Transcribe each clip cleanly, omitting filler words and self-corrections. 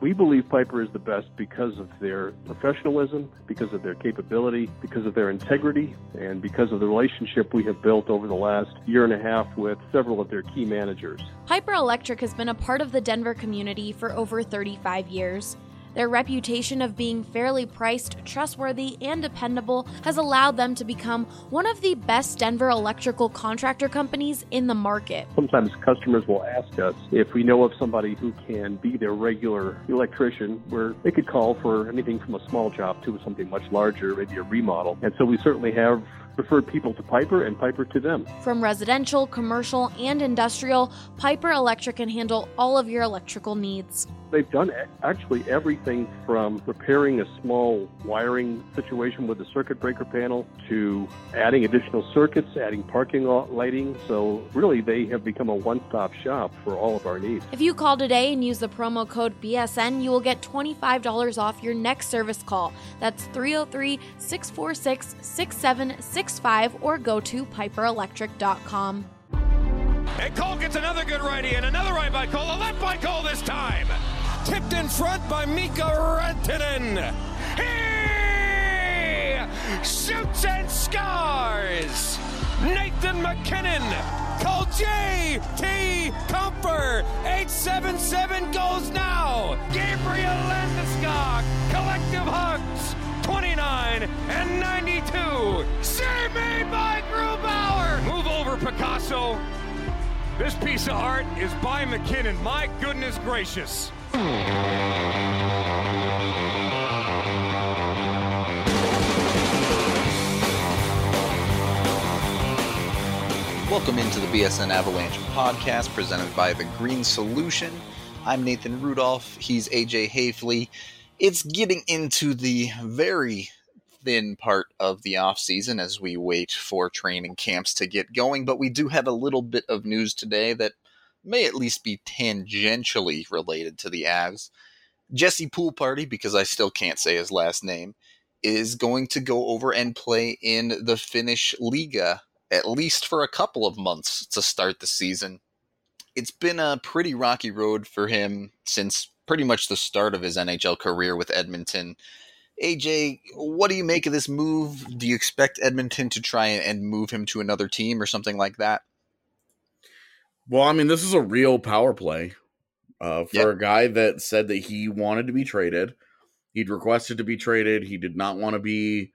We believe Piper is the best because of their professionalism, because of their capability, because of their integrity, and because of the relationship we have built over the last year and a half with several of their key managers. Piper Electric has been a part of the Denver community for over 35 years. Their reputation of being fairly priced, trustworthy, and dependable has allowed them to become one of the best Denver electrical contractor companies in the market. Sometimes customers will ask us if we know of somebody who can be their regular electrician, where they could call for anything from a small job to something much larger, maybe a remodel. And so we certainly have referred people to Piper and Piper to them. From residential, commercial, and industrial, Piper Electric can handle all of your electrical needs. They've done actually everything from repairing a small wiring situation with a circuit breaker panel to adding additional circuits, adding parking lot lighting. So really, they have become a one-stop shop for all of our needs. If you call today and use the promo code BSN, you will get $25 off your next service call. That's 303-646-6765 or go to piperelectric.com. And Cole gets another good righty and another right by Cole, a left by Cole this time. Tipped in front by Mika Rantanen. He shoots and scores. Nathan MacKinnon. Cole J.T. Comfer. 877 goes now. Gabriel Landeskog. Collective hugs. 29 and 92. Save made by Grubauer. Move over, Picasso. This piece of art is by McKinnon. My goodness gracious. Welcome into the BSN Avalanche podcast presented by The Green Solution. I'm Nathan Rudolph. He's AJ Hafley. It's getting into the very thin part of the off-season as we wait for training camps to get going, but we do have a little bit of news today that may at least be tangentially related to the Avs. Jesse Poolparty, because I still can't say his last name, is going to go over and play in the Finnish Liga, at least for a couple of months to start the season. It's been a pretty rocky road for him since pretty much the start of his NHL career with Edmonton. AJ, what do you make of this move? Do you expect Edmonton to try and move him to another team or something like that? Well, I mean, this is a real power play for a guy that said that he wanted to be traded. He'd requested to be traded. He did not want to be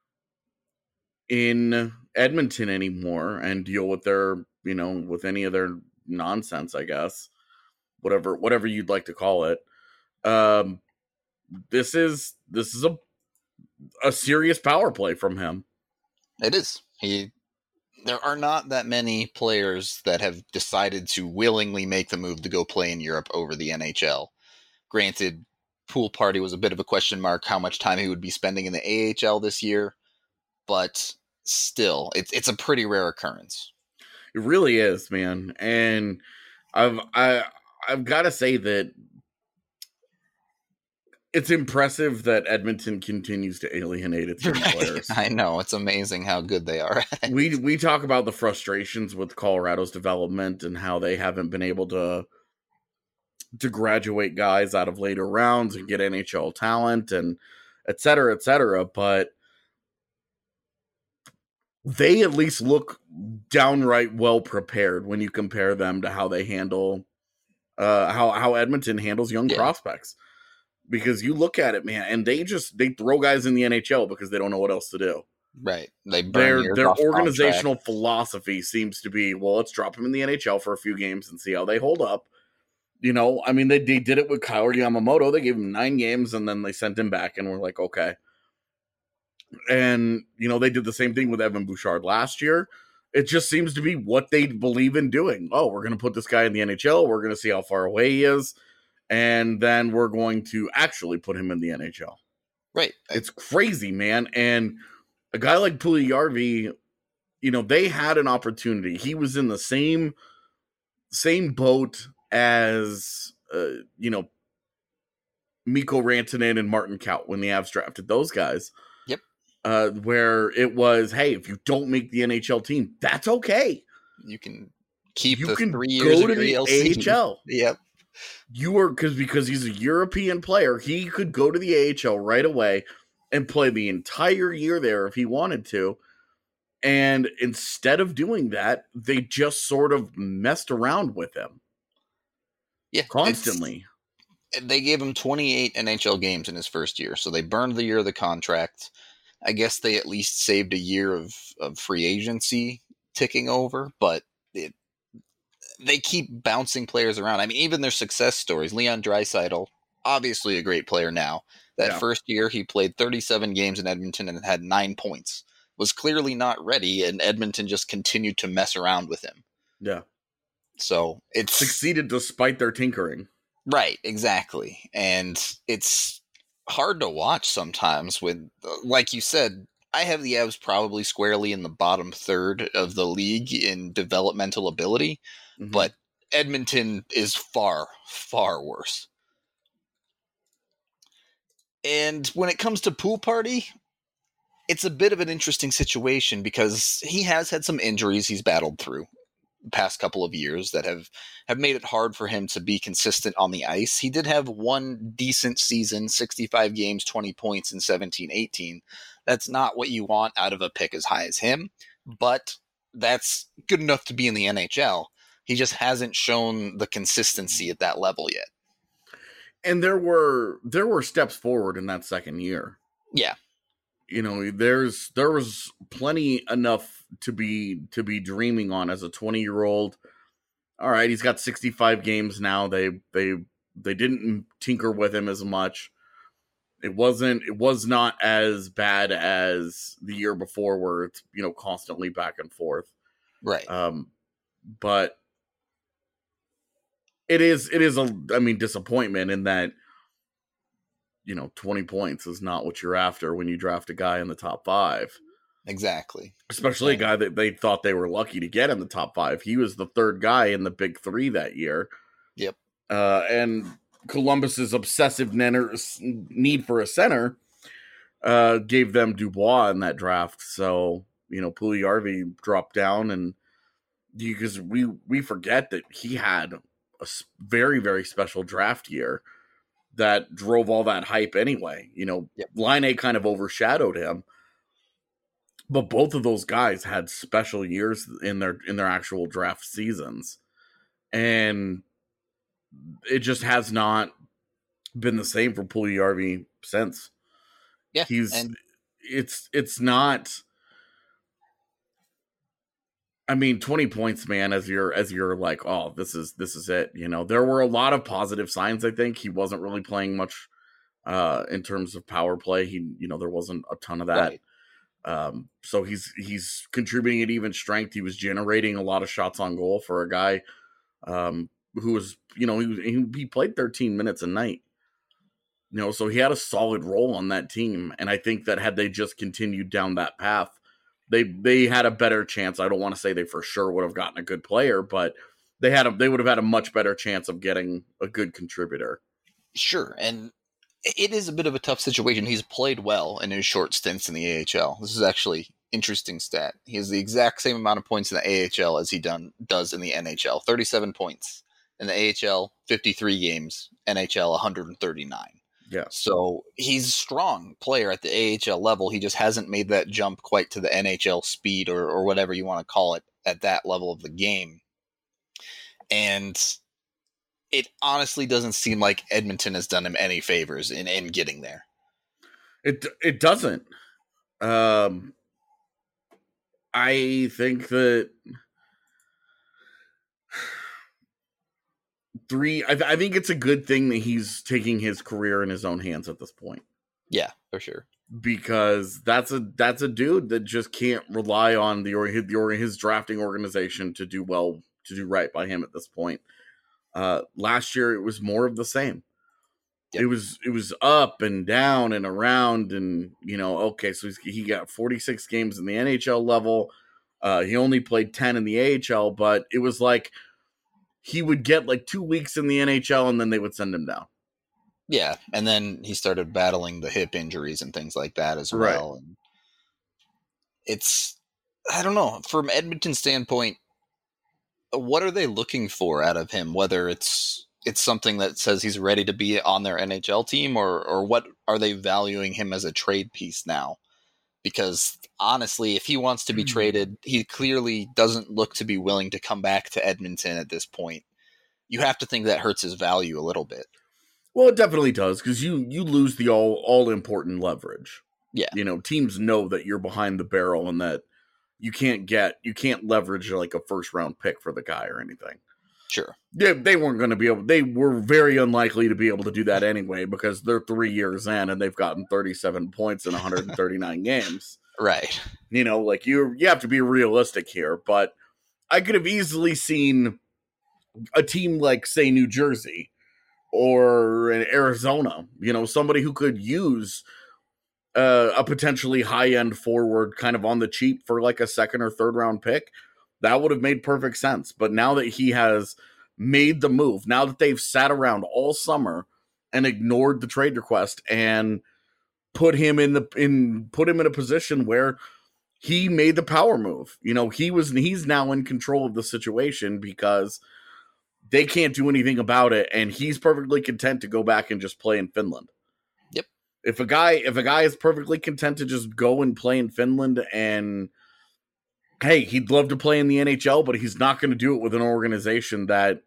in Edmonton anymore and deal with their, with any of their nonsense, I guess. Whatever you'd like to call it. This is a serious power play from him. It is. There are not that many players that have decided to willingly make the move to go play in Europe over the NHL. Granted, Poolparty was a bit of a question mark how much time he would be spending in the AHL this year, but still, it's a pretty rare occurrence. It really is, man. And I've got to say that it's impressive that Edmonton continues to alienate its young players. I know. It's amazing how good they are. We talk about the frustrations with Colorado's development and how they haven't been able to graduate guys out of later rounds and get NHL talent and et cetera, but they at least look downright well prepared when you compare them to how they handle how Edmonton handles young prospects. Because you look at it, man, and they throw guys in the NHL because they don't know what else to do. Right. They burn their organizational philosophy seems to be, well, let's drop them in the NHL for a few games and see how they hold up. I mean, they did it with Kyle Yamamoto. They gave him 9 games and then they sent him back and we're like, okay. And, they did the same thing with Evan Bouchard last year. It just seems to be what they believe in doing. Oh, we're going to put this guy in the NHL. We're going to see how far away he is. And then we're going to actually put him in the NHL. Right. It's crazy, man. And a guy like Puljujarvi, they had an opportunity. He was in the same boat as, Mikko Rantanen and Martin Kaut when the Avs drafted those guys. Yep. Where it was, hey, if you don't make the NHL team, that's okay. You can keep you the can 3 years go to the AHL. AHL. Yep. because he's a European player, he could go to the AHL right away and play the entire year there if he wanted to. And instead of doing that, they just sort of messed around with him. Yeah, constantly. They gave him 28 NHL games in his first year, so they burned the year of the contract. I guess they at least saved a year of free agency ticking over, but they keep bouncing players around. I mean, even their success stories. Leon Draisaitl, obviously a great player now. That first year, he played 37 games in Edmonton and had 9 points. Was clearly not ready, and Edmonton just continued to mess around with him. Yeah. So it's succeeded despite their tinkering. Right, exactly. And it's hard to watch sometimes with, like you said, I have the Avs probably squarely in the bottom third of the league in developmental ability, but Edmonton is far, far worse. And when it comes to Pool Party, it's a bit of an interesting situation because he has had some injuries he's battled through the past couple of years that have made it hard for him to be consistent on the ice. He did have one decent season, 65 games, 20 points in 17-18. That's not what you want out of a pick as high as him, but that's good enough to be in the NHL. He just hasn't shown the consistency at that level yet. And there were steps forward in that second year. Yeah. You know, there was plenty enough to be dreaming on as a 20-year-old. All right, he's got 65 games now. They didn't tinker with him as much. It was not as bad as the year before where it's, you know, constantly back and forth. Right. But it is disappointment in that, you know, 20 points is not what you're after when you draft a guy in the top 5. Exactly. Especially a guy that they thought they were lucky to get in the top 5. He was the third guy in the big 3 that year. Yep. And Columbus's obsessive need for a center gave them Dubois in that draft. So, you know, Puljujarvi dropped down, and because we forget that he had a very, very special draft year that drove all that hype anyway. You know, Laine kind of overshadowed him, but both of those guys had special years in their actual draft seasons, and it just has not been the same for Puljujarvi since. Yeah, it's not. I mean, 20 points, man, as you're like, oh, this is it. You know, there were a lot of positive signs. I think he wasn't really playing much in terms of power play. There wasn't a ton of that. Right. So he's contributing at even strength. He was generating a lot of shots on goal for a guy who was, you know, he played 13 minutes a night. You know, so he had a solid role on that team. And I think that had they just continued down that path, they had a better chance. I don't want to say they for sure would have gotten a good player, but they would have had a much better chance of getting a good contributor. Sure, and it is a bit of a tough situation. He's played well in his short stints in the AHL. This is actually interesting stat. He has the exact same amount of points in the AHL as he does in the NHL. 37 points in the AHL, 53 games. NHL, 139. Yeah. So he's a strong player at the AHL level. He just hasn't made that jump quite to the NHL speed or whatever you want to call it at that level of the game. And it honestly doesn't seem like Edmonton has done him any favors in getting there. It doesn't. I think that I think it's a good thing that he's taking his career in his own hands at this point. Yeah, for sure. Because that's a dude that just can't rely on his drafting organization to do right by him at this point. Last year it was more of the same. Yep. It was up and down and around, and you know, okay, so he got 46 games in the NHL level. He only played 10 in the AHL, but it was like he would get like 2 weeks in the NHL and then they would send him down. Yeah, and then he started battling the hip injuries and things like that as well. Right. And it's, I don't know, from Edmonton's standpoint, what are they looking for out of him? Whether it's it's something that says he's ready to be on their NHL team, or what are they valuing him as a trade piece now? Because honestly, if he wants to be traded, he clearly doesn't look to be willing to come back to Edmonton at this point. You have to think that hurts his value a little bit. Well, it definitely does, because you lose the all important leverage. Yeah. Teams know that you're behind the barrel and that you can't leverage like a first round pick for the guy or anything. Sure. Yeah, they weren't going to be able. They were very unlikely to be able to do that anyway, because they're 3 years in and they've gotten 37 points in 139 games. Right. Like you have to be realistic here. But I could have easily seen a team like, say, New Jersey or Arizona. Somebody who could use a potentially high end forward, kind of on the cheap, for like a second or third round pick. That would have made perfect sense. But now that he has made the move, now that they've sat around all summer and ignored the trade request and put him in a position where he made the power move. He's now in control of the situation because they can't do anything about it, and he's perfectly content to go back and just play in Finland. Yep. If a guy is perfectly content to just go and play in Finland, and hey, he'd love to play in the NHL, but he's not going to do it with an organization that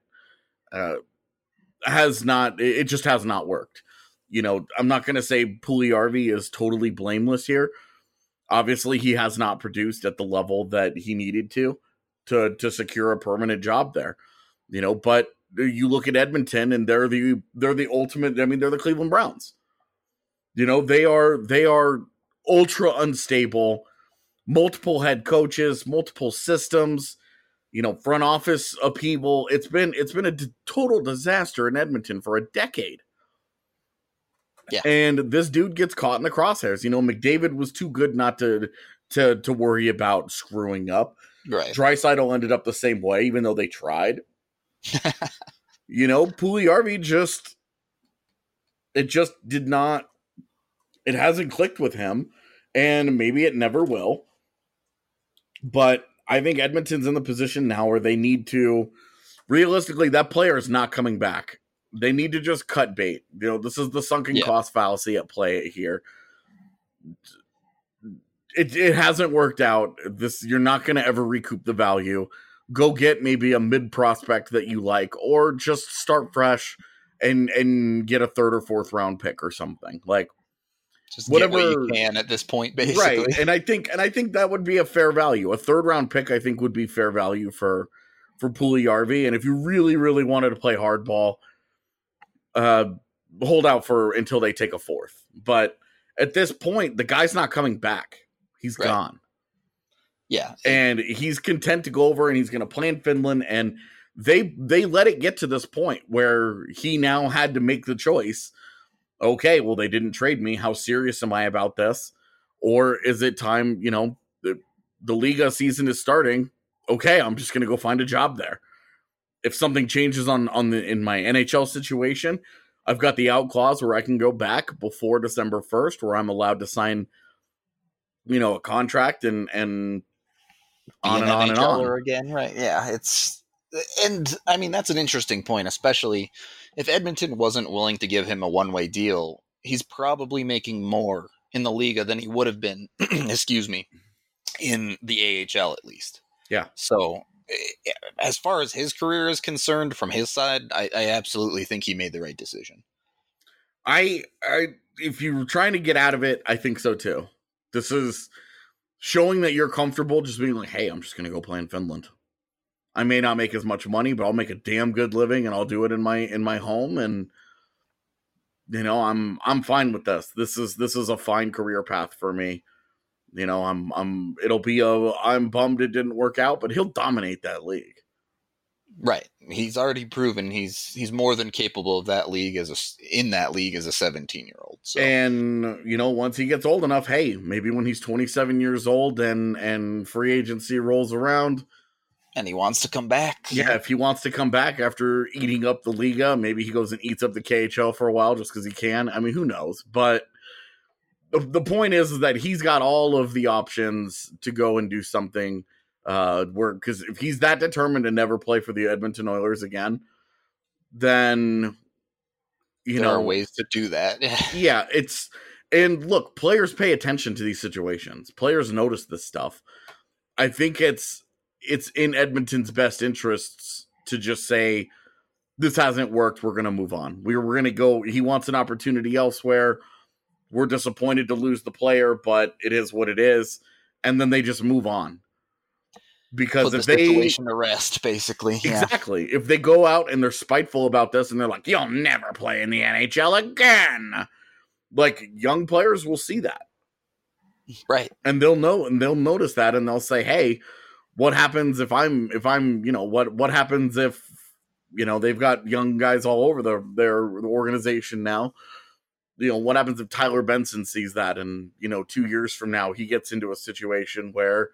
has not worked. I'm not going to say Puljujarvi is totally blameless here. Obviously, he has not produced at the level that he needed to secure a permanent job there. But you look at Edmonton, and they're the ultimate. I mean, they're the Cleveland Browns. They are ultra unstable. Multiple head coaches, multiple systems, front office upheaval. It's been a total disaster in Edmonton for a decade. Yeah. And this dude gets caught in the crosshairs. McDavid was too good not to worry about screwing up. Right. Draisaitl ended up the same way, even though they tried. Puljujarvi it hasn't clicked with him, and maybe it never will. But I think Edmonton's in the position now where they need to, realistically, that player is not coming back. They need to just cut bait. This is the sunken cost fallacy at play here. It hasn't worked out. You're not going to ever recoup the value. Go get maybe a mid prospect that you like, or just start fresh and get a third or fourth round pick or something. Like, just whatever get what you can at this point, basically. Right. And I think that would be a fair value. A third round pick, I think, would be fair value for Puljujarvi. And if you really, really wanted to play hardball, hold out until they take a fourth. But at this point, the guy's not coming back. He's gone. Yeah. And he's content to go over, and he's going to play in Finland. And they let it get to this point where he now had to make the choice. Okay, well, they didn't trade me. How serious am I about this? Or is it time, the Liga season is starting. Okay, I'm just going to go find a job there. If something changes in my NHL situation, I've got the out clause where I can go back before December 1st, where I'm allowed to sign, a contract and on and on and on. Again, right? Yeah, and I mean, that's an interesting point, especially if Edmonton wasn't willing to give him a one-way deal. He's probably making more in the Liga than he would have been, excuse me, in the AHL at least. Yeah. So as far as his career is concerned, from his side, I absolutely think he made the right decision. If you're trying to get out of it, I think so too. This is showing that you're comfortable just being like, hey, I'm just going to go play in Finland. I may not make as much money, but I'll make a damn good living, and I'll do it in my home. And I'm fine with this. This is a fine career path for me. I'm bummed it didn't work out, but he'll dominate that league. Right. He's already proven he's more than capable of that league as a 17-year-old. So. And once he gets old enough, hey, maybe when he's 27 years old and free agency rolls around, and he wants to come back. Yeah, if he wants to come back after eating up the Liga, maybe he goes and eats up the KHL for a while just because he can. I mean, who knows? But the point is that he's got all of the options to go and do something. Because if he's that determined to never play for the Edmonton Oilers again, then there are ways to do that. Yeah, and look, players pay attention to these situations. Players notice this stuff. I think it's in Edmonton's best interests to just say, this hasn't worked, we're going to move on. We're going to go, he wants an opportunity elsewhere. We're disappointed to lose the player, but it is what it is. And then they just move on. Because if the situation to rest, basically. Exactly. If they go out and they're spiteful about this and they're like, you'll never play in the NHL again. Like, young players will see that. Right. And they'll know, and they'll notice that, and they'll say, hey, what happens if I'm, what happens if, they've got young guys all over their organization now. What happens if Tyler Benson sees that and, 2 years from now he gets into a situation where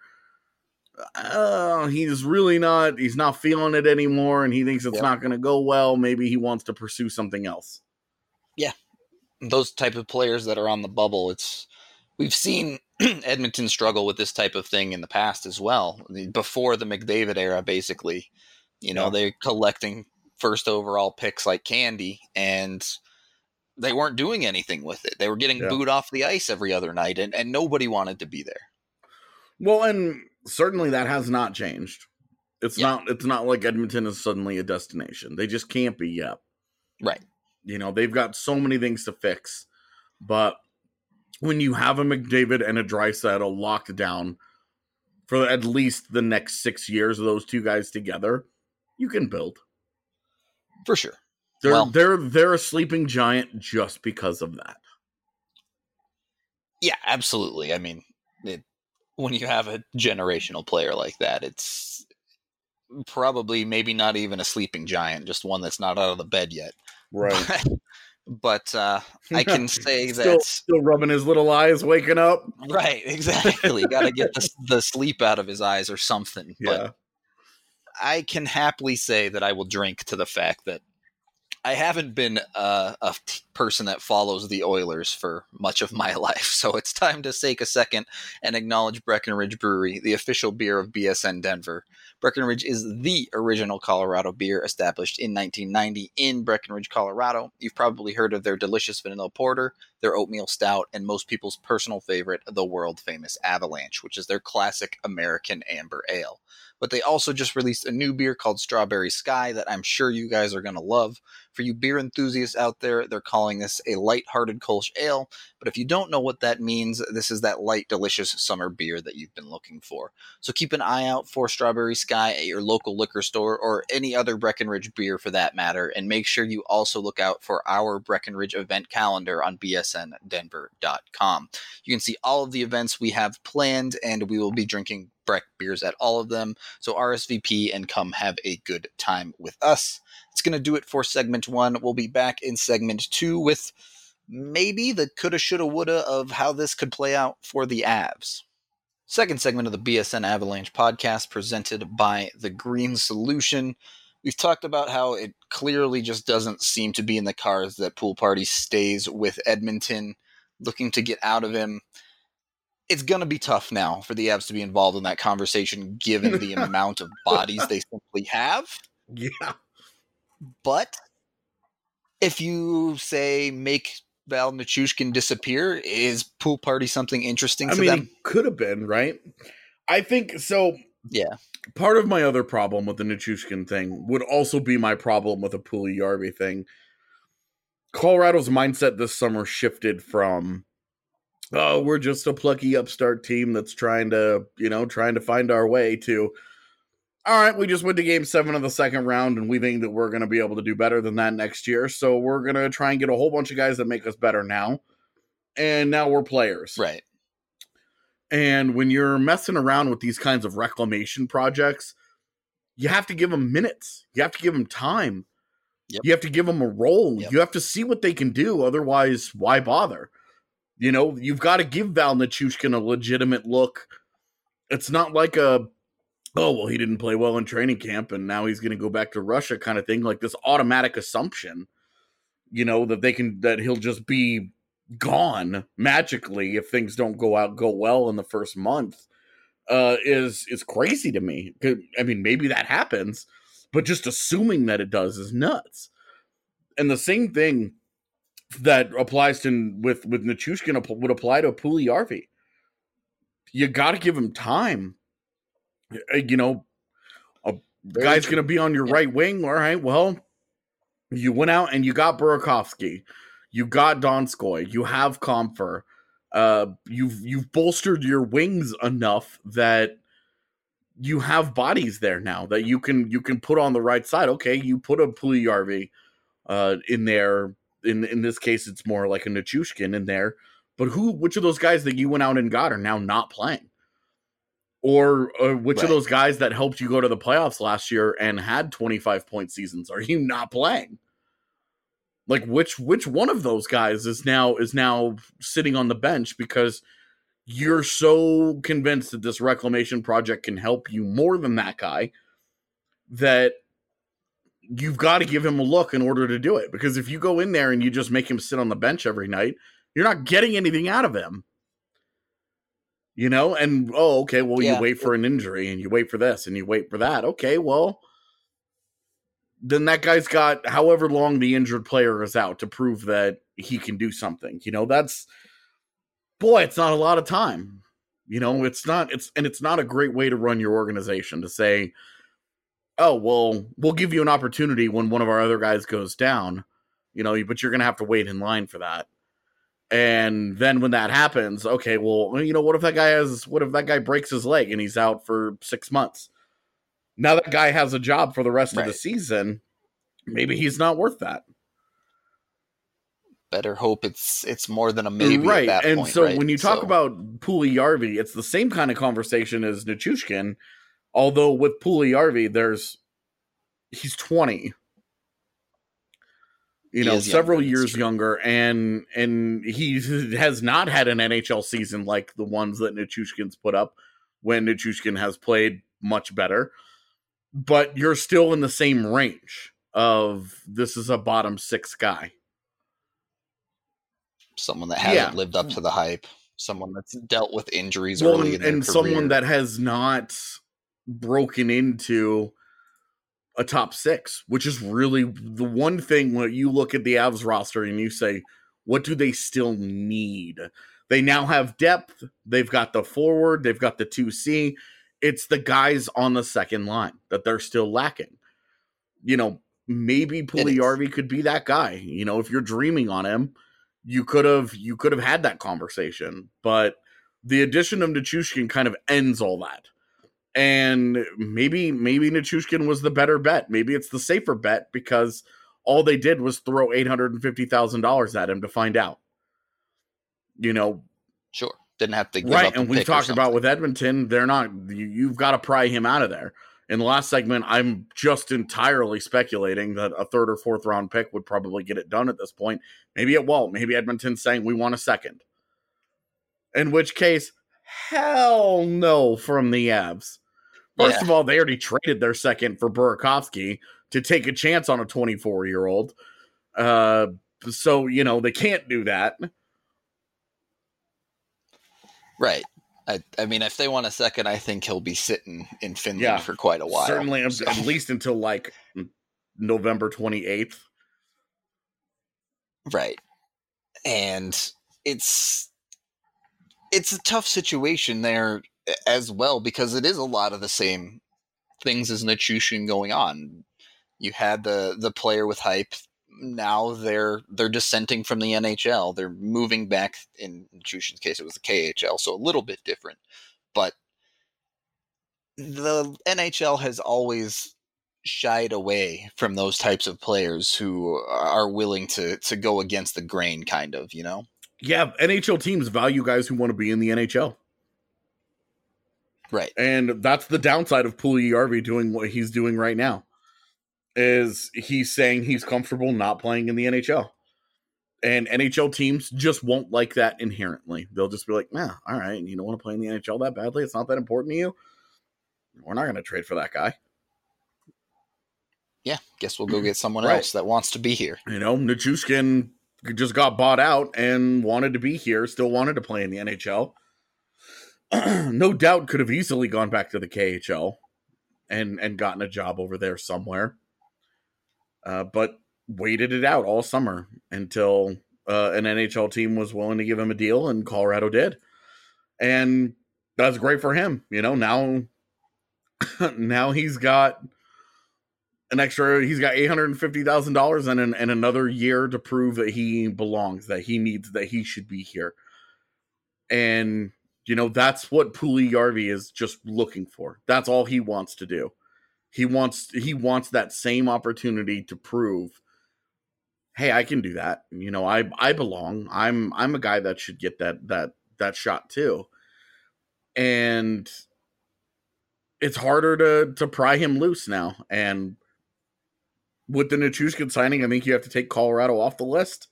he's not feeling it anymore and he thinks it's not going to go well. Maybe he wants to pursue something else. Yeah. Those type of players that are on the bubble, we've seen Edmonton struggle with this type of thing in the past as well. Before the McDavid era, basically, they're collecting first overall picks like candy, and they weren't doing anything with it. They were getting booed off the ice every other night, and nobody wanted to be there. Well, and certainly that has not changed. It's not like Edmonton is suddenly a destination. They just can't be yet. Right. They've got so many things to fix, but when you have a McDavid and a Draisaitl locked down for at least the next 6 years of those two guys together, you can build. For sure. They're a sleeping giant just because of that. Yeah, absolutely. I mean, when you have a generational player like that, it's probably maybe not even a sleeping giant, just one that's not out of the bed yet. Right. But I can say that still rubbing his little eyes, waking up. Right, exactly. Got to get the sleep out of his eyes or something. Yeah. But I can happily say that I will drink to the fact that I haven't been a person that follows the Oilers for much of my life, so it's time to take a second and acknowledge Breckenridge Brewery, the official beer of BSN Denver. Breckenridge is the original Colorado beer established in 1990 in Breckenridge, Colorado. You've probably heard of their delicious vanilla porter, their oatmeal stout, and most people's personal favorite, the world-famous Avalanche, which is their classic American amber ale. But they also just released a new beer called Strawberry Sky that I'm sure you guys are going to love. For you beer enthusiasts out there, they're calling this a light-hearted Kolsch ale. But if you don't know what that means, this is that light, delicious summer beer that you've been looking for. So keep an eye out for Strawberry Sky at your local liquor store or any other Breckenridge beer for that matter. And make sure you also look out for our Breckenridge event calendar on bsndenver.com. You can see all of the events we have planned, and we will be drinking Breck beers at all of them. So RSVP and come have a good time with us. It's going to do it for segment 1. We'll be back in segment 2 with maybe the coulda, shoulda, woulda of how this could play out for the Avs. Second segment of the BSN Avalanche podcast presented by The Green Solution. We've talked about how it clearly just doesn't seem to be in the cards that Pool Party stays with Edmonton, looking to get out of him. It's going to be tough now for the Avs to be involved in that conversation, given the amount of bodies they simply have. Yeah. But if you say make Val Nichushkin disappear, is Pool Party something interesting to them? It could have been, right? I think so. Yeah. Part of my other problem with the Nichushkin thing would also be my problem with the Puljujarvi thing. Colorado's mindset this summer shifted from, oh, we're just a plucky upstart team that's trying to find our way to, all right, we just went to game 7 of the second round and we think that we're going to be able to do better than that next year. So we're going to try and get a whole bunch of guys that make us better now. And now we're players. Right. And when you're messing around with these kinds of reclamation projects, you have to give them minutes. You have to give them time. Yep. You have to give them a role. Yep. You have to see what they can do. Otherwise, why bother? You've got to give Val Nichushkin a legitimate look. It's not like he didn't play well in training camp and now he's going to go back to Russia kind of thing. Like this automatic assumption, that he'll just be gone magically if things don't go well in the first month, is crazy to me. I mean, maybe that happens, but just assuming that it does is nuts. And the same thing that applies to with Nichushkin would apply to Puljujarvi. You got to give him time. You know, a guy's going to be on your right wing. All right, well, you went out and you got Burakovsky. You got Donskoy. You have Comfer. You've bolstered your wings enough that you have bodies there now that you can put on the right side. Okay, you put a Puljujarvi in there. In this case, it's more like a Nichushkin in there. But which of those guys that you went out and got are now not playing? Or which of those guys that helped you go to the playoffs last year and had 25-point seasons are you not playing? Like which one of those guys is now sitting on the bench because you're so convinced that this reclamation project can help you more than that guy that you've got to give him a look in order to do it. Because if you go in there and you just make him sit on the bench every night, you're not getting anything out of him. You know, and okay, well, you wait for an injury and you wait for this and you wait for that. Okay, well, then that guy's got however long the injured player is out to prove that he can do something. You know, it's not a lot of time. You know, it's not a great way to run your organization to say, oh, well, we'll give you an opportunity when one of our other guys goes down, you know, but you're going to have to wait in line for that. And then when that happens, okay, well, you know, what if that guy breaks his leg and he's out for 6 months? Now that guy has a job for the rest of the season. Maybe he's not worth that. Better hope it's more than a maybe right. At that and point, so right? When you talk about Puljujarvi, it's the same kind of conversation as Nichushkin, although with Puljujarvi, he's 20. You know, several years younger, and he has not had an NHL season like the ones that Nichushkin's put up when Nichushkin has played much better. But you're still in the same range of this is a bottom 6 guy. Someone that hasn't lived up to the hype. Someone that's dealt with injuries early in their career. Someone that has not broken into a top 6, which is really the one thing when you look at the Avs roster and you say, what do they still need? They now have depth. They've got the forward. They've got the 2C. It's the guys on the second line that they're still lacking. You know, maybe Puljujarvi could be that guy. You know, if you're dreaming on him, you could have had that conversation. But the addition of Nichushkin kind of ends all that. And maybe Nichushkin was the better bet. Maybe it's the safer bet because all they did was throw $850,000 at him to find out. You know, sure, didn't have to give up and we've talked about with Edmonton, they're not. You've got to pry him out of there. In the last segment, I'm just entirely speculating that a 3rd or 4th round pick would probably get it done at this point. Maybe it won't. Maybe Edmonton's saying we want a 2nd. In which case, hell no from the Avs. First of all, they already traded their 2nd for Burakovsky to take a chance on a 24-year-old. So, you know, they can't do that. Right. I mean, if they want a 2nd, I think he'll be sitting in Finland for quite a while. Certainly, at least until like November 28th. Right. And it's a tough situation there as well, because it is a lot of the same things as Nichushkin going on. You had the player with hype. Now they're dissenting from the NHL. They're moving back. In Nichushkin's case, it was the KHL, so a little bit different. But the NHL has always shied away from those types of players who are willing to go against the grain, kind of, you know? Yeah, NHL teams value guys who want to be in the NHL. Right. And that's the downside of Puljujarvi doing what he's doing right now. Is he's saying he's comfortable not playing in the NHL. And NHL teams just won't like that inherently. They'll just be like, nah, all right, you don't want to play in the NHL that badly? It's not that important to you? We're not going to trade for that guy. Yeah, guess we'll go get someone else that wants to be here. You know, Nichushkin just got bought out and wanted to be here, still wanted to play in the NHL. No doubt could have easily gone back to the KHL and gotten a job over there somewhere. But waited it out all summer until an NHL team was willing to give him a deal, and Colorado did. And that's great for him. Now he's got he's got $850,000 and another year to prove that he belongs, that he should be here. And, that's what Puljujarvi is just looking for. That's all he wants to do. He wants that same opportunity to prove, hey, I can do that. I belong. I'm a guy that should get that shot too. And it's harder to pry him loose now. And with the Nichushkin signing, I think you have to take Colorado off the list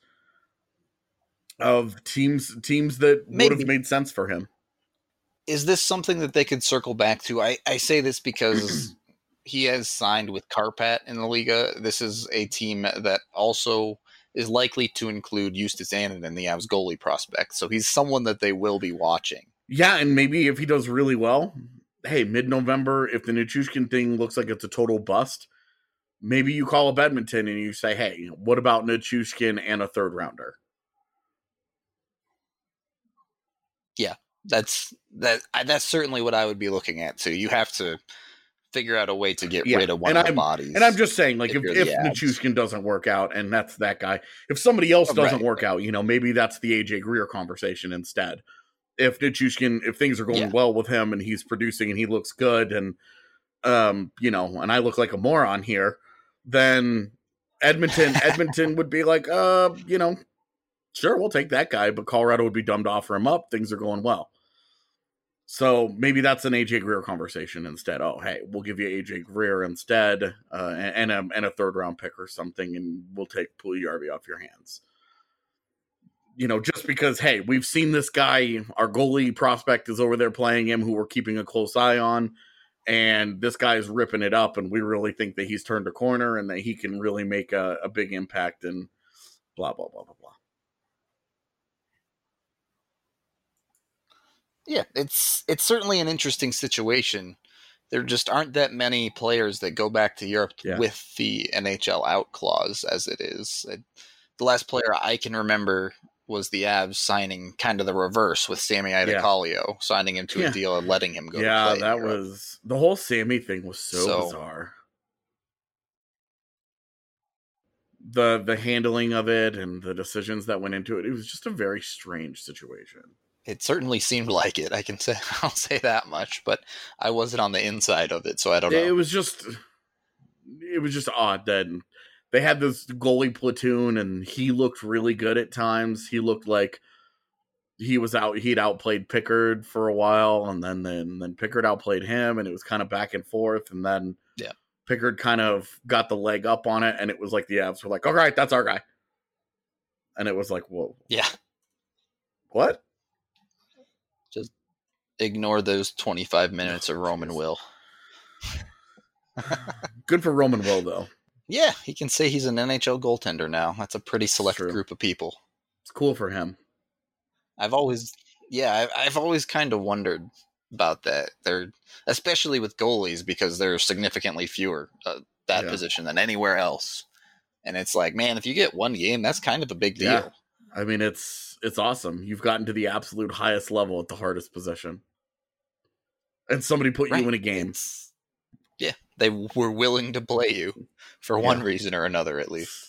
of teams that would have made sense for him. Is this something that they could circle back to? I say this because he has signed with Karpat in the Liga. This is a team that also is likely to include Justus Annunen, the Avs goalie prospect. So he's someone that they will be watching. Yeah, and maybe if he does really well, hey, mid-November, if the Nichushkin thing looks like it's a total bust, maybe you call up Edmonton and you say, hey, what about Nichushkin and a third rounder? Yeah, that's certainly what I would be looking at too. You have to figure out a way to get rid of one of the bodies. And I'm just saying, like, if Nichushkin doesn't work out, and that's that guy, if somebody else doesn't work out, maybe that's the AJ Greer conversation instead. If Nichushkin, if things are going well with him and he's producing and he looks good and, and I look like a moron here, then Edmonton would be like, sure, we'll take that guy, but Colorado would be dumb to offer him up. Things are going well. So maybe that's an AJ Greer conversation instead. Oh, hey, we'll give you AJ Greer instead, and a third round pick or something, and we'll take Puljujarvi off your hands. Just because, hey, we've seen this guy, our goalie prospect is over there playing him, who we're keeping a close eye on, and this guy is ripping it up, and we really think that he's turned a corner and that he can really make a big impact, and blah, blah, blah, blah, blah. Yeah, it's certainly an interesting situation. There just aren't that many players that go back to Europe with the NHL out clause as it is. The last player I can remember was the Avs signing kind of the reverse with Sammy Idacolio, signing him to a deal and letting him go to play. Yeah, that was... The whole Sammy thing was so bizarre. The handling of it and the decisions that went into it, it was just a very strange situation. It certainly seemed like it. I'll say that much, but I wasn't on the inside of it, so I don't know. It was just odd that they had this goalie platoon, and he looked really good at times. He looked like he'd outplayed Pickard for a while, and then Pickard outplayed him, and it was kind of back and forth, and then Pickard kind of got the leg up on it, and it was like the Avs were like, all right, that's our guy. And it was like, whoa. Yeah. What? Just ignore those 25 minutes of Roman Will. Good for Roman Will, though. Yeah, he can say he's an NHL goaltender now. That's a pretty select group of people. It's cool for him. I've always kind of wondered about that. They're especially with goalies because they're significantly fewer position than anywhere else. And it's like, man, if you get one game, that's kind of a big deal. Yeah. I mean, it's awesome. You've gotten to the absolute highest level at the hardest position. And somebody put you in a game. They were willing to play you for one reason or another, at least.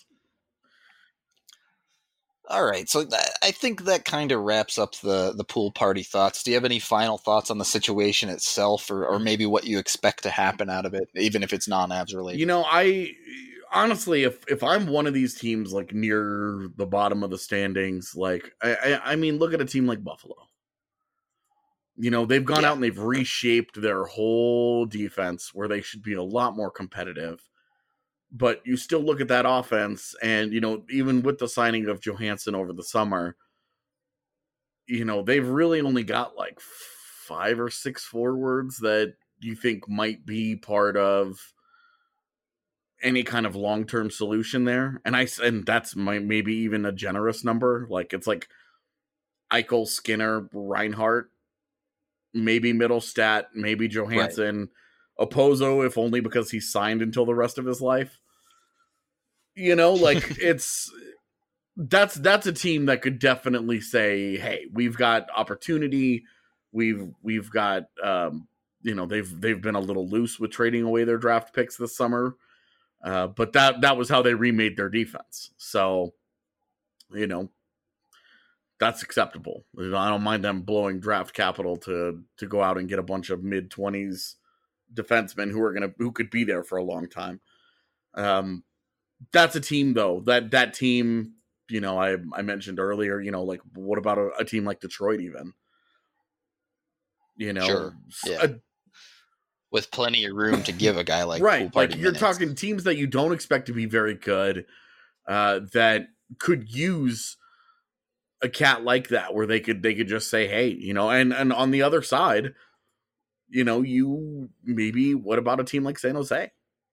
All right, so I think that kind of wraps up the pool party thoughts. Do you have any final thoughts on the situation itself, or maybe what you expect to happen out of it, even if it's non-Avs related? I honestly, if I'm one of these teams, like near the bottom of the standings, like I mean, look at a team like Buffalo. They've gone out and they've reshaped their whole defense where they should be a lot more competitive. But you still look at that offense and, even with the signing of Johansson over the summer, they've really only got like 5 or 6 forwards that you think might be part of any kind of long-term solution there. And that's maybe even a generous number. Like, it's like Eichel, Skinner, Reinhart, maybe Middlestat, maybe Johansson, Opozo, if only because he's signed until the rest of his life. Like that's a team that could definitely say, hey, we've got opportunity. We've got, they've been a little loose with trading away their draft picks this summer. But that was how they remade their defense. So, that's acceptable. I don't mind them blowing draft capital to go out and get a bunch of mid-20s defensemen who could be there for a long time. That's a team though. That team, I mentioned earlier, like what about a team like Detroit even? Sure. Yeah. With plenty of room to give a guy like right, like you're talking teams that you don't expect to be very good, that could use a cat like that, where they could just say, hey, and on the other side, you maybe what about a team like San Jose?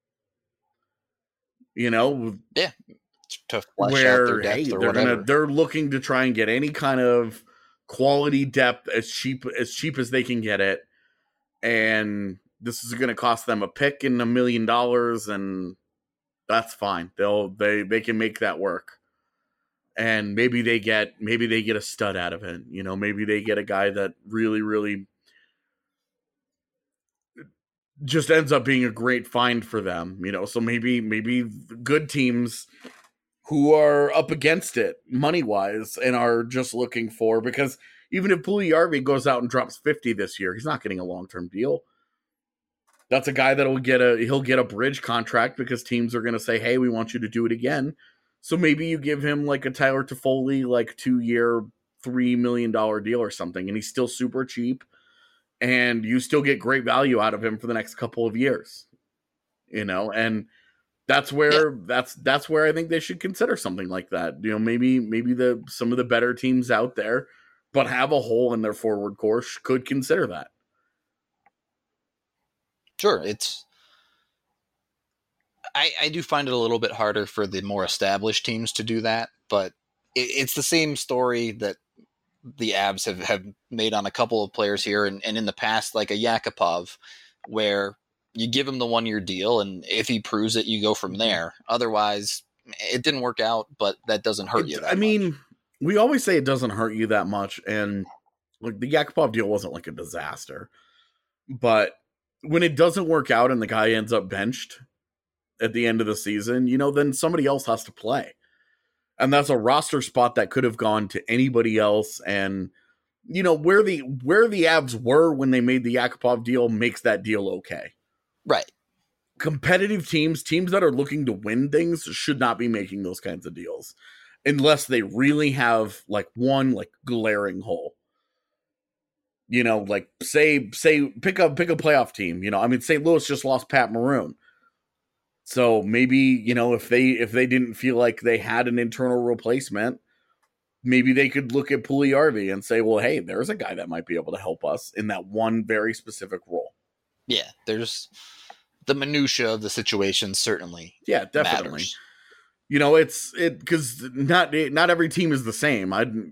Yeah, to flesh where out their depth or whatever. They're looking to try and get any kind of quality depth as cheap as they can get it, and this is going to cost them a pick and $1 million, and that's fine. They can make that work. And maybe they get a stud out of it. Maybe they get a guy that really, really just ends up being a great find for them. So maybe good teams who are up against it money wise and are just looking for, because even if Puljujarvi goes out and drops 50 this year, he's not getting a long-term deal. That's a guy he'll get a bridge contract, because teams are going to say, hey, we want you to do it again. So maybe you give him like a Tyler Toffoli, like 2-year, $3 million deal or something, and he's still super cheap, and you still get great value out of him for the next couple of years, and that's where that's where I think they should consider something like that. Maybe some of the better teams out there, but have a hole in their forward course, could consider that. Sure, I do find it a little bit harder for the more established teams to do that, but it's the same story that the Avs have made on a couple of players here, and in the past, like a Yakupov, where you give him the 1-year deal, and if he proves it, you go from there. Otherwise, it didn't work out, but that doesn't hurt you that much. We always say it doesn't hurt you that much, and like the Yakupov deal wasn't like a disaster, but when it doesn't work out and the guy ends up benched at the end of the season, then somebody else has to play. And that's a roster spot that could have gone to anybody else. And, where the Avs were when they made the Yakupov deal makes that deal okay. Right. Competitive teams that are looking to win things should not be making those kinds of deals unless they really have like one like glaring hole. Like say pick a playoff team. St. Louis just lost Pat Maroon. So maybe, if they didn't feel like they had an internal replacement, maybe they could look at Puljujarvi and say, well, hey, there's a guy that might be able to help us in that one very specific role. Yeah, there's the minutia of the situation certainly. Yeah, definitely. Matters. Because not every team is the same.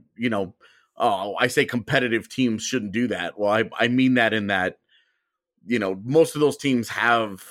I say competitive teams shouldn't do that. Well, I mean that in that, most of those teams have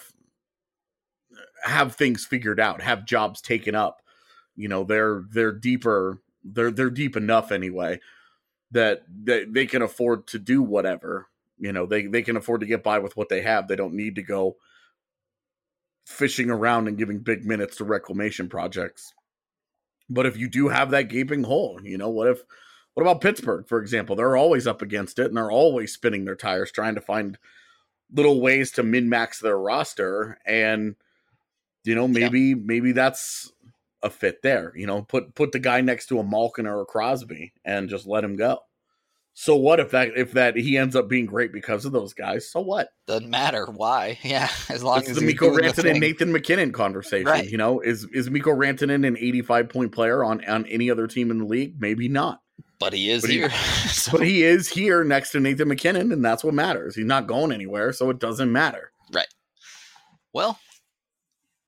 things figured out, have jobs taken up. They're deeper. They're deep enough anyway that they can afford to do whatever. They can afford to get by with what they have. They don't need to go fishing around and giving big minutes to reclamation projects. But if you do have that gaping hole, what about Pittsburgh, for example? They're always up against it, and they're always spinning their tires trying to find little ways to min-max their roster. And, maybe that's a fit there. Put the guy next to a Malkin or a Crosby and just let him go. So what if that he ends up being great because of those guys? So what? Doesn't matter why. Yeah, as long as the Mikko Rantanen, Nathan MacKinnon conversation. Right. Is Mikko Rantanen an 85-point player on any other team in the league? Maybe not. But he is here. But he is here next to Nathan MacKinnon, and that's what matters. He's not going anywhere, so it doesn't matter. Right. Well,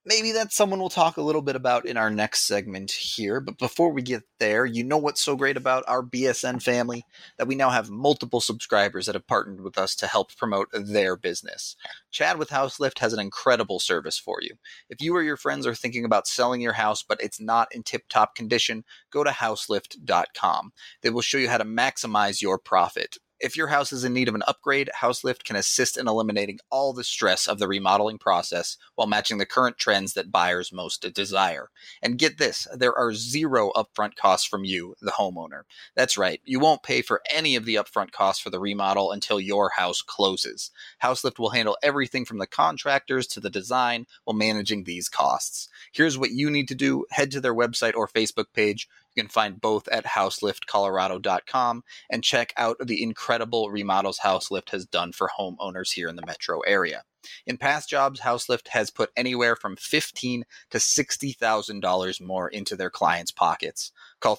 maybe that's someone we'll talk a little bit about in our next segment here. But before we get there, you know what's so great about our BSN family? That we now have multiple subscribers that have partnered with us to help promote their business. Chad with Houselift has an incredible service for you. If you or your friends are thinking about selling your house, but it's not in tip-top condition, go to houselift.com. They will show you how to maximize your profit. If your house is in need of an upgrade, Houselift can assist in eliminating all the stress of the remodeling process while matching the current trends that buyers most desire. And get this, there are zero upfront costs from you, the homeowner. That's right, you won't pay for any of the upfront costs for the remodel until your house closes. Houselift will handle everything from the contractors to the design while managing these costs. Here's what you need to do. Head to their website or Facebook page. You can find both at houseliftcolorado.com and check out the incredible remodels Houselift has done for homeowners here in the metro area. In past jobs, Houselift has put anywhere from $15,000 to $60,000 more into their clients' pockets. Call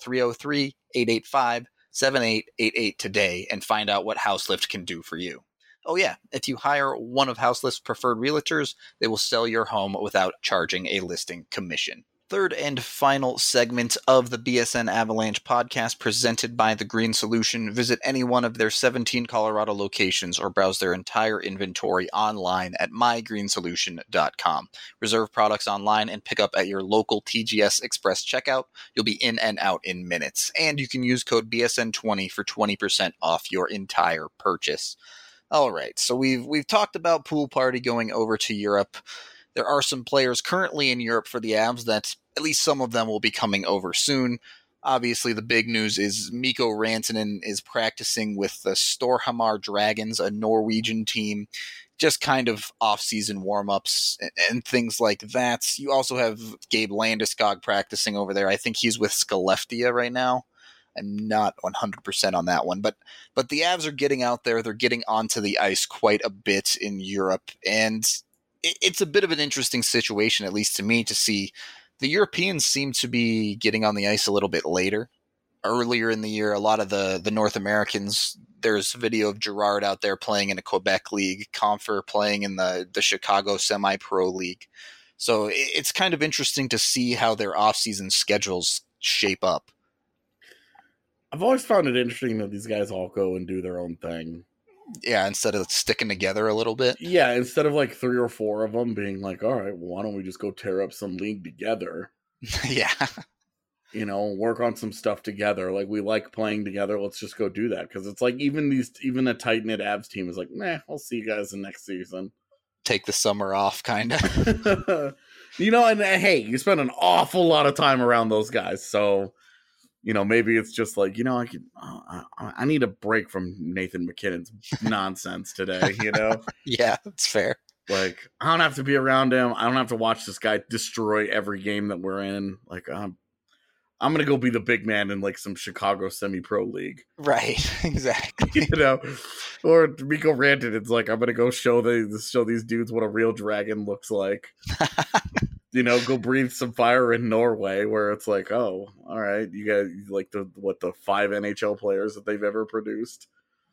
303-885-7888 today and find out what Houselift can do for you. Oh yeah, if you hire one of Houselift's preferred realtors, they will sell your home without charging a listing commission. Third and final segment of the BSN Avalanche podcast presented by The Green Solution. Visit any one of their 17 Colorado locations or browse their entire inventory online at mygreensolution.com. Reserve products online and pick up at your local TGS Express checkout. You'll be in and out in minutes. And you can use code BSN20 for 20% off your entire purchase. All right, so we've talked about Pool Party going over to Europe. There are some players currently in Europe for the Avs that at least some of them will be coming over soon. Obviously, the big news is Mikko Rantanen is practicing with the Storhamar Dragons, a Norwegian team, just kind of off-season warm-ups and things like that. You also have Gabe Landeskog practicing over there. I think he's with Skellefteå right now. I'm not 100% on that one, but the Avs are getting out there. They're getting onto the ice quite a bit in Europe, and it's a bit of an interesting situation, at least to me, to see the Europeans seem to be getting on the ice a little bit later. Earlier in the year, a lot of the North Americans, there's video of Girard out there playing in a Quebec league, Compher playing in the Chicago Semi-Pro League. So it's kind of interesting to see how their off-season schedules shape up. I've always found it interesting that these guys all go and do their own thing. Yeah, instead of sticking together a little bit. Yeah, instead of like 3 or 4 of them being like, all right, well, why don't we just go tear up some league together? Yeah. You know, work on some stuff together. Like, we like playing together. Let's just go do that. Because it's like even a tight-knit Avs team is like, I'll see you guys in next season. Take the summer off, kind of. You know, and hey, you spend an awful lot of time around those guys, so... You know, maybe it's just like, you know, I need a break from Nathan MacKinnon's nonsense today, you know? Yeah, that's fair. Like, I don't have to be around him. I don't have to watch this guy destroy every game that we're in. Like, I'm going to go be the big man in, like, some Chicago Semi-Pro League. Right, exactly. You know? Or Mikko Rantanen, it's like, I'm going to go show these dudes what a real dragon looks like. You know, go breathe some fire in Norway, where it's like, oh, all right, you guys like the 5 NHL players that they've ever produced.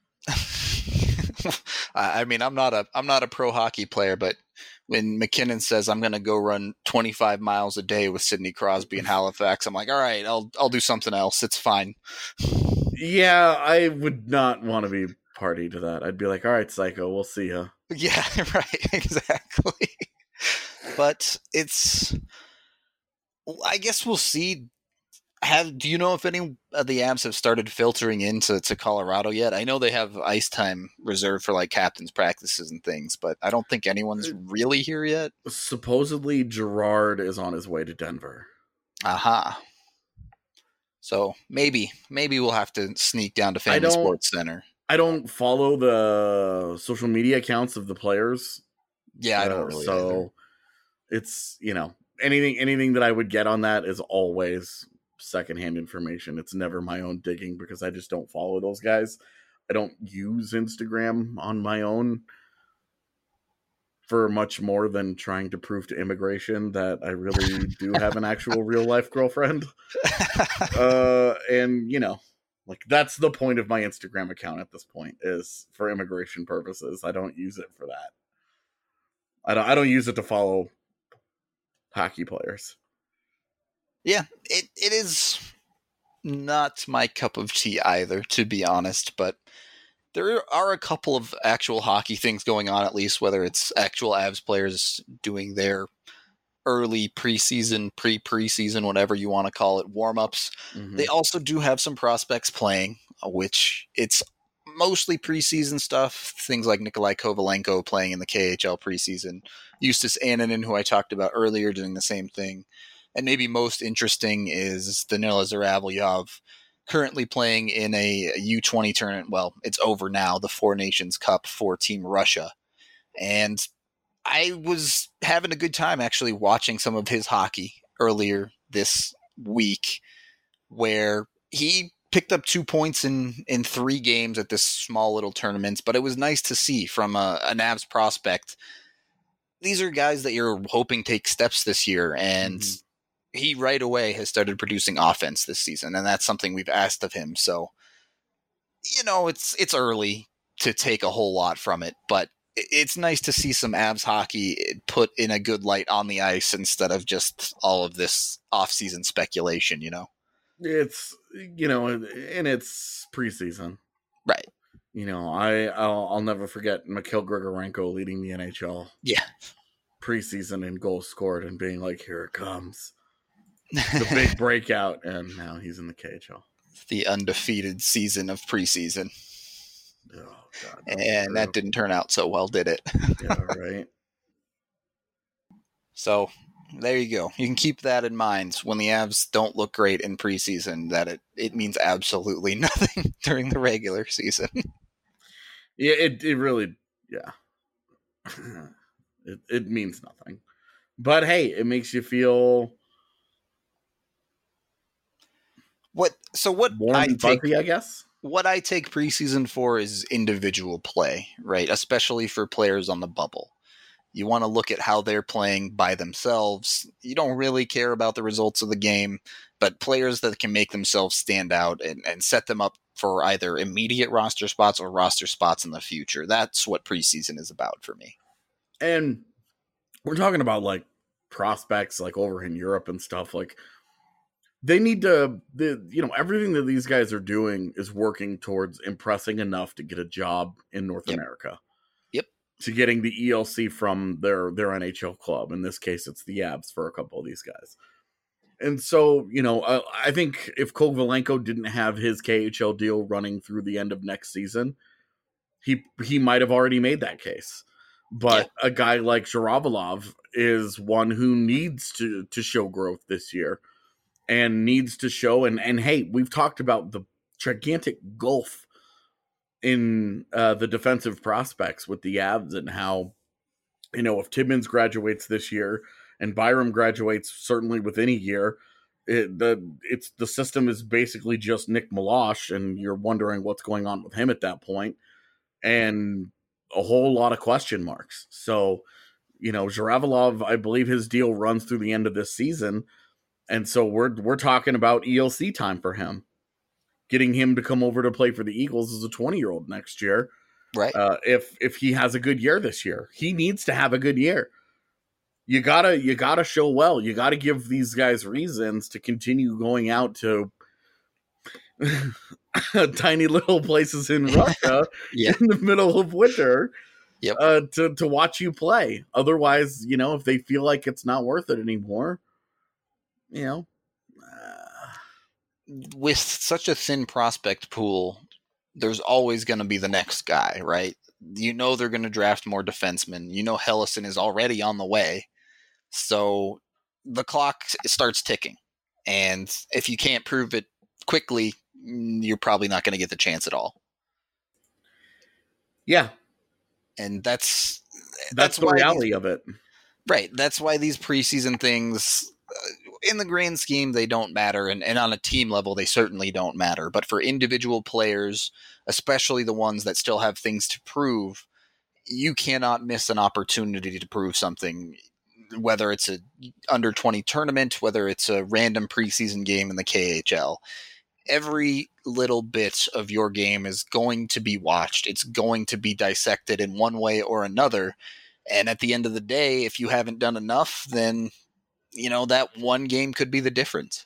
I mean, I'm not a pro hockey player, but when MacKinnon says I'm going to go run 25 miles a day with Sidney Crosby in Halifax, I'm like, all right, I'll do something else. It's fine. Yeah, I would not want to be party to that. I'd be like, all right, psycho, we'll see ya. Yeah, right, exactly. But I guess we'll see. Do you know if any of the Avs have started filtering into Colorado yet? I know they have ice time reserved for like captain's practices and things, but I don't think anyone's really here yet. Supposedly Girard is on his way to Denver. Aha. So maybe we'll have to sneak down to Family Sports Center. I don't follow the social media accounts of the players. Yeah, I don't really. So either. It's, you know, anything that I would get on that is always secondhand information. It's never my own digging because I just don't follow those guys. I don't use Instagram on my own for much more than trying to prove to immigration that I really do have an actual real life girlfriend. And, you know, like that's the point of my Instagram account at this point, is for immigration purposes. I don't use it for that. I don't use it to follow hockey players. Yeah, it is not my cup of tea either, to be honest, but there are a couple of actual hockey things going on, at least, whether it's actual Avs players doing their early preseason, pre-preseason, whatever you want to call it, warm-ups. Mm-hmm. They also do have some prospects playing, which it's mostly preseason stuff. Things like Nikolai Kovalenko playing in the KHL preseason. Justus Annunen, who I talked about earlier, doing the same thing. And maybe most interesting is Danila Zaravyov, currently playing in a U20 tournament. Well, it's over now, the Four Nations Cup for Team Russia. And I was having a good time actually watching some of his hockey earlier this week, where he picked up 2 points in 3 games at this small little tournament. But it was nice to see from an Avs prospect. These are guys that you're hoping take steps this year, and he right away has started producing offense this season, and that's something we've asked of him. So, it's early to take a whole lot from it, but it's nice to see some Avs hockey put in a good light on the ice instead of just all of this off-season speculation, It's, and it's preseason. Right. I'll never forget Mikhail Grigorenko leading the NHL. Yeah. Preseason and goals scored and being like, here it comes. The big breakout, and now he's in the KHL. The undefeated season of preseason. Oh, God. And that didn't turn out so well, did it? Yeah, right. So, there you go. You can keep that in mind when the Avs don't look great in preseason, that it means absolutely nothing during the regular season. Yeah, it really, yeah. It means nothing. But hey, it makes you feel what warm and fuzzy, I guess. What I take preseason for is individual play, right? Especially for players on the bubble. You want to look at how they're playing by themselves. You don't really care about the results of the game, but players that can make themselves stand out and set them up for either immediate roster spots or roster spots in the future. That's what preseason is about for me. And we're talking about like prospects like over in Europe and stuff. Like they need to, everything that these guys are doing is working towards impressing enough to get a job in North America. Yep. To getting the ELC from their NHL club. In this case, it's the Avs for a couple of these guys. And so, I think if Kovalenko didn't have his KHL deal running through the end of next season, he might have already made that case. But a guy like Zhiravalov is one who needs to show growth this year and needs to show. And hey, we've talked about the gigantic gulf in the defensive prospects with the Avs and how, if Timmins graduates this year and Byram graduates certainly within a year, the system is basically just Nick Milosh, and you're wondering what's going on with him at that point. And a whole lot of question marks. So, Zhiravalov, I believe his deal runs through the end of this season. And so we're talking about ELC time for him. Getting him to come over to play for the Eagles as a 20-year-old next year. Right. If he has a good year this year. He needs to have a good year. You gotta show well. You gotta give these guys reasons to continue going out to tiny little places in Russia in the middle of winter to watch you play. Otherwise, if they feel like it's not worth it anymore, with such a thin prospect pool, there's always going to be the next guy, right? They're going to draft more defensemen. Helleson is already on the way. So the clock starts ticking. And if you can't prove it quickly, you're probably not going to get the chance at all. Yeah. And that's the reality of it. Right. That's why these preseason things, in the grand scheme, they don't matter. And on a team level, they certainly don't matter. But for individual players, especially the ones that still have things to prove, you cannot miss an opportunity to prove something, whether it's a under 20 tournament, whether it's a random preseason game in the KHL. Every little bit of your game is going to be watched. It's going to be dissected in one way or another. And at the end of the day, if you haven't done enough, then that one game could be the difference.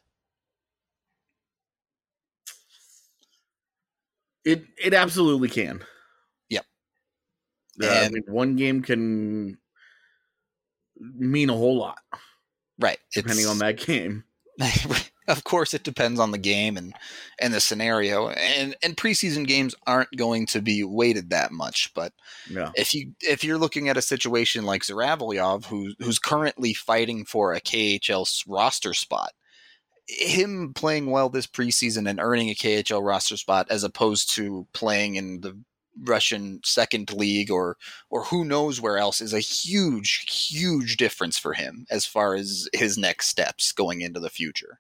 It absolutely can. Yep. I mean, one game can mean a whole lot. Right. Depending on that game. Of course, it depends on the game and the scenario. And preseason games aren't going to be weighted that much. But yeah. if you're looking at a situation like Zhuravlyov, who's currently fighting for a KHL roster spot, him playing well this preseason and earning a KHL roster spot as opposed to playing in the Russian second league or who knows where else is a huge, huge difference for him as far as his next steps going into the future.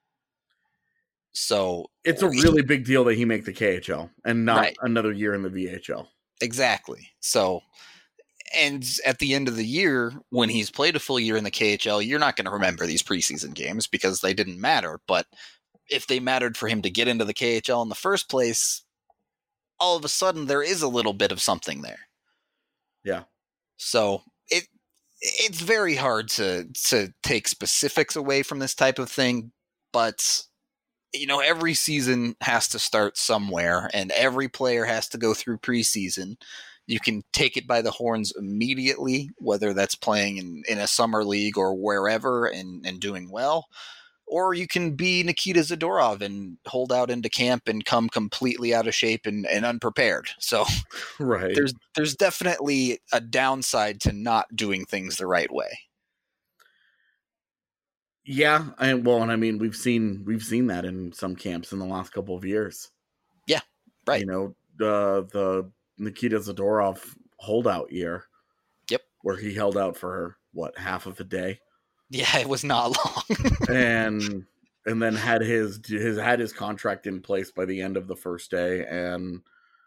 So it's a really big deal that he make the KHL and not another year in the VHL. Exactly. So, and at the end of the year, when he's played a full year in the KHL, you're not going to remember these preseason games because they didn't matter. But if they mattered for him to get into the KHL in the first place, all of a sudden there is a little bit of something there. Yeah. So it's very hard to take specifics away from this type of thing, but every season has to start somewhere and every player has to go through preseason. You can take it by the horns immediately, whether that's playing in a summer league or wherever and doing well, or you can be Nikita Zadorov and hold out into camp and come completely out of shape and unprepared. So right. There's definitely a downside to not doing things the right way. Yeah, and I mean we've seen that in some camps in the last couple of years. Yeah, right. The Nikita Zadorov holdout year. Yep. Where he held out for half of a day. Yeah, it was not long. and then had his contract in place by the end of the first day and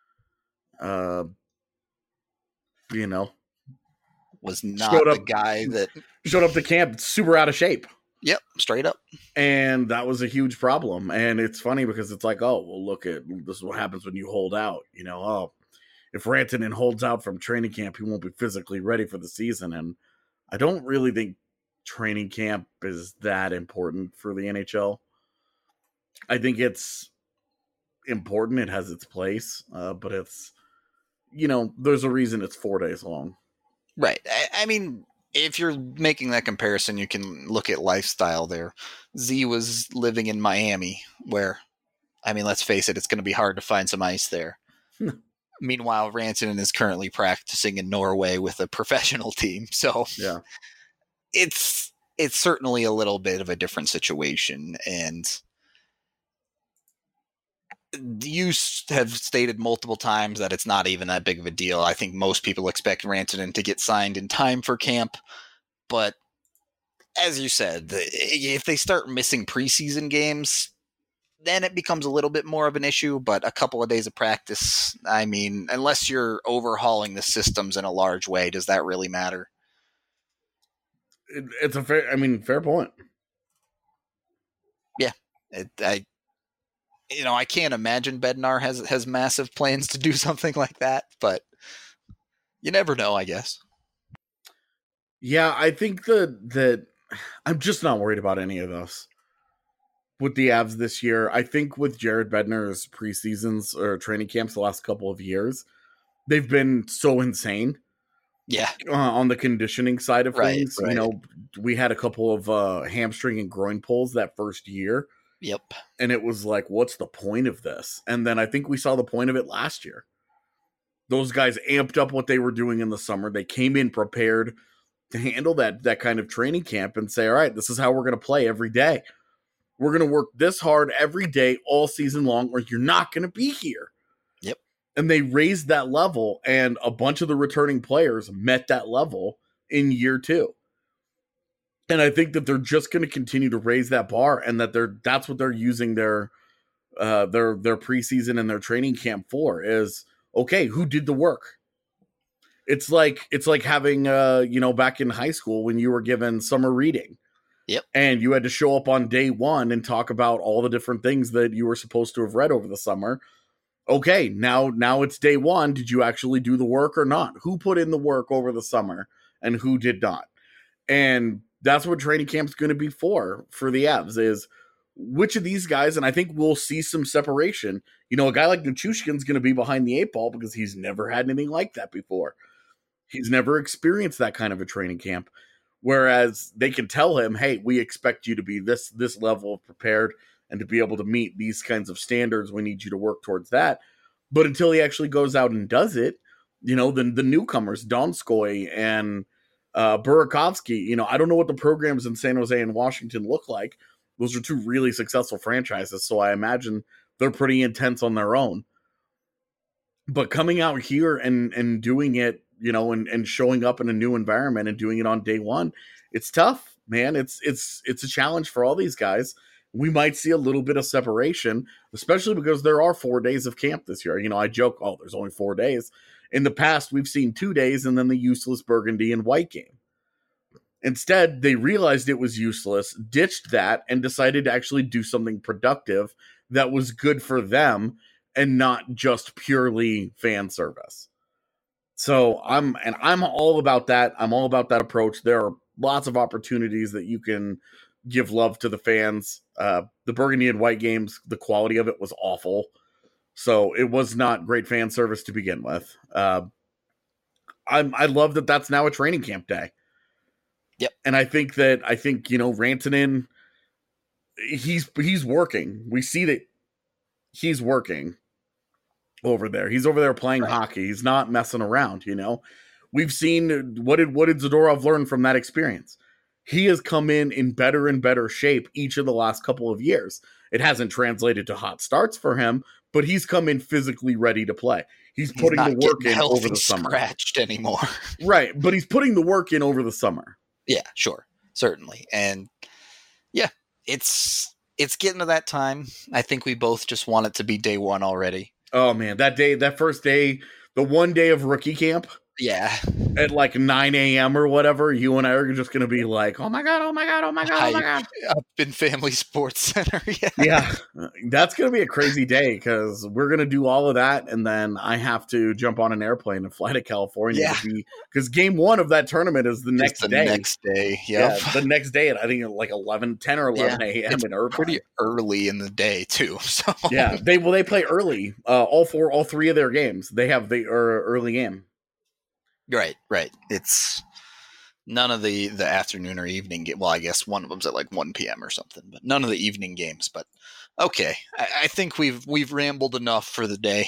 was not the guy that showed up to camp super out of shape. Yep, straight up. And that was a huge problem. And it's funny because it's like, oh, well, look at this is what happens when you hold out. If Rantanen holds out from training camp, he won't be physically ready for the season. And I don't really think training camp is that important for the NHL. I think it's important. It has its place. But it's, there's a reason it's 4 days long. Right. I mean, if you're making that comparison, you can look at lifestyle there. Z was living in Miami where, I mean, let's face it, it's going to be hard to find some ice there. Meanwhile, Rantanen is currently practicing in Norway with a professional team. So yeah, it's certainly a little bit of a different situation. And you have stated multiple times that it's not even that big of a deal. I think most people expect Rantanen to get signed in time for camp. But as you said, if they start missing preseason games, then it becomes a little bit more of an issue. But a couple of days of practice, I mean, unless you're overhauling the systems in a large way, does that really matter? It's a fair point. Yeah. I can't imagine Bednar has massive plans to do something like that, but you never know, I guess. Yeah, I think that I'm just not worried about any of this with the Avs this year. I think with Jared Bednar's preseasons or training camps the last couple of years, they've been so insane. Yeah. On the conditioning side of things, right. We had a couple of hamstring and groin pulls that first year. Yep. And it was like, what's the point of this? And then I think we saw the point of it last year. Those guys amped up what they were doing in the summer. They came in prepared to handle that kind of training camp and say, all right, this is how we're going to play every day. We're going to work this hard every day, all season long, or you're not going to be here. Yep. And they raised that level, and a bunch of the returning players met that level in year 2. And I think that they're just going to continue to raise that bar, and that's what they're using their preseason and their training camp for is, okay, who did the work? It's like having back in high school when you were given summer reading. Yep. And you had to show up on day 1 and talk about all the different things that you were supposed to have read over the summer. Okay, now it's day 1. Did you actually do the work or not? Who put in the work over the summer and who did not? And that's what training camp's going to be for the Avs, is which of these guys, and I think we'll see some separation. You know, a guy like Nichushkin's going to be behind the 8 ball because he's never had anything like that before. He's never experienced that kind of a training camp. Whereas they can tell him, hey, we expect you to be this level of prepared and to be able to meet these kinds of standards. We need you to work towards that. But until he actually goes out and does it, you know, the newcomers, Donskoy and Burakovsky, you know, I don't know what the programs in San Jose and Washington look like. Those are 2 really successful franchises, so I imagine they're pretty intense on their own. But coming out here and doing it, you know, and showing up in a new environment and doing it on day one, it's tough, man. It's a challenge for all these guys. We might see a little bit of separation, especially because there are 4 days of camp this year. You know, I joke, oh, there's only 4 days. In the past, we've seen 2 days and then the useless burgundy and white game. Instead, they realized it was useless, ditched that, and decided to actually do something productive that was good for them and not just purely fan service. So I'm all about that. I'm all about that approach. There are lots of opportunities that you can give love to the fans. The burgundy and white games, the quality of it was awful. So it was not great fan service to begin with. I love that that's now a training camp day. Yep. And I think, you know, Rantanen, he's working. We see that he's working over there. He's over there playing hockey. He's not messing around, you know. We've seen what did Zadorov learn from that experience? He has come in better and better shape each of the last couple of years. It hasn't translated to hot starts for him, but he's come in physically ready to play. He's putting the work in over the summer. Scratched anymore. Right, but he's putting the work in over the summer. Yeah, sure. Certainly. And yeah, it's getting to that time. I think we both just want it to be day one already. Oh man, that first day, the one day of rookie camp. Yeah. At like 9 a.m. or whatever, you and I are just going to be like, oh my God. Up in Family Sports Center. Yeah. That's going to be a crazy day because we're going to do all of that. And then I have to jump on an airplane and fly to California. Because game 1 of that tournament is the next day. Next day. Yep. Yeah. The next day at, I think, like 10 or 11 a.m. in Irvine. Pretty early in the day, too. So. Yeah. They play early. All 3 of their games. They have the early game. Right. It's none of the afternoon or evening game. Well, I guess one of them's at like 1 p.m. or something, but none of the evening games. But okay, I think we've rambled enough for the day.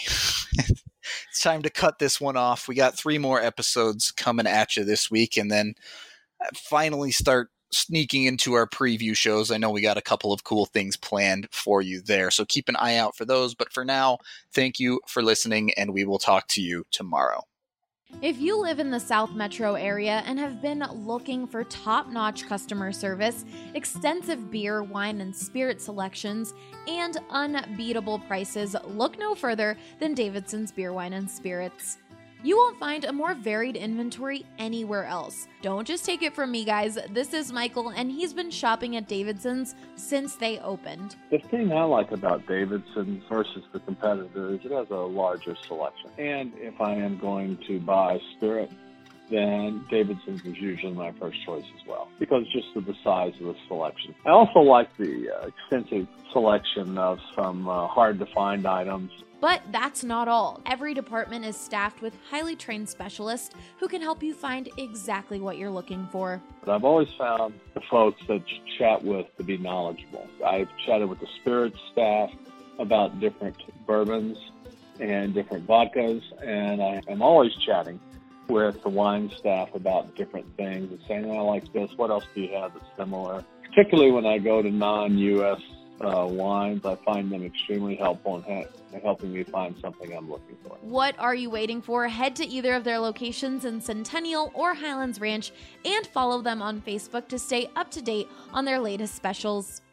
It's time to cut this one off. We got 3 more episodes coming at you this week, and then finally start sneaking into our preview shows. I know we got a couple of cool things planned for you there, so keep an eye out for those. But for now, thank you for listening, and we will talk to you tomorrow. If you live in the South Metro area and have been looking for top-notch customer service, extensive beer, wine, and spirit selections, and unbeatable prices, look no further than Davidson's Beer, Wine, and Spirits. You won't find a more varied inventory anywhere else. Don't just take it from me, guys. This is Michael, and he's been shopping at Davidson's since they opened. The thing I like about Davidson's versus the competitors, it has a larger selection. And if I am going to buy spirit, then Davidson's is usually my first choice as well, because just of the size of the selection. I also like the extensive selection of some hard-to-find items. But that's not all. Every department is staffed with highly trained specialists who can help you find exactly what you're looking for. But I've always found the folks that you chat with to be knowledgeable. I've chatted with the spirits staff about different bourbons and different vodkas, and I am always chatting with the wine staff about different things and saying, I like this, what else do you have that's similar? Particularly when I go to non-U.S. wines, I find them extremely helpful in helping me find something I'm looking for. What are you waiting for? Head to either of their locations in Centennial or Highlands Ranch and follow them on Facebook to stay up to date on their latest specials.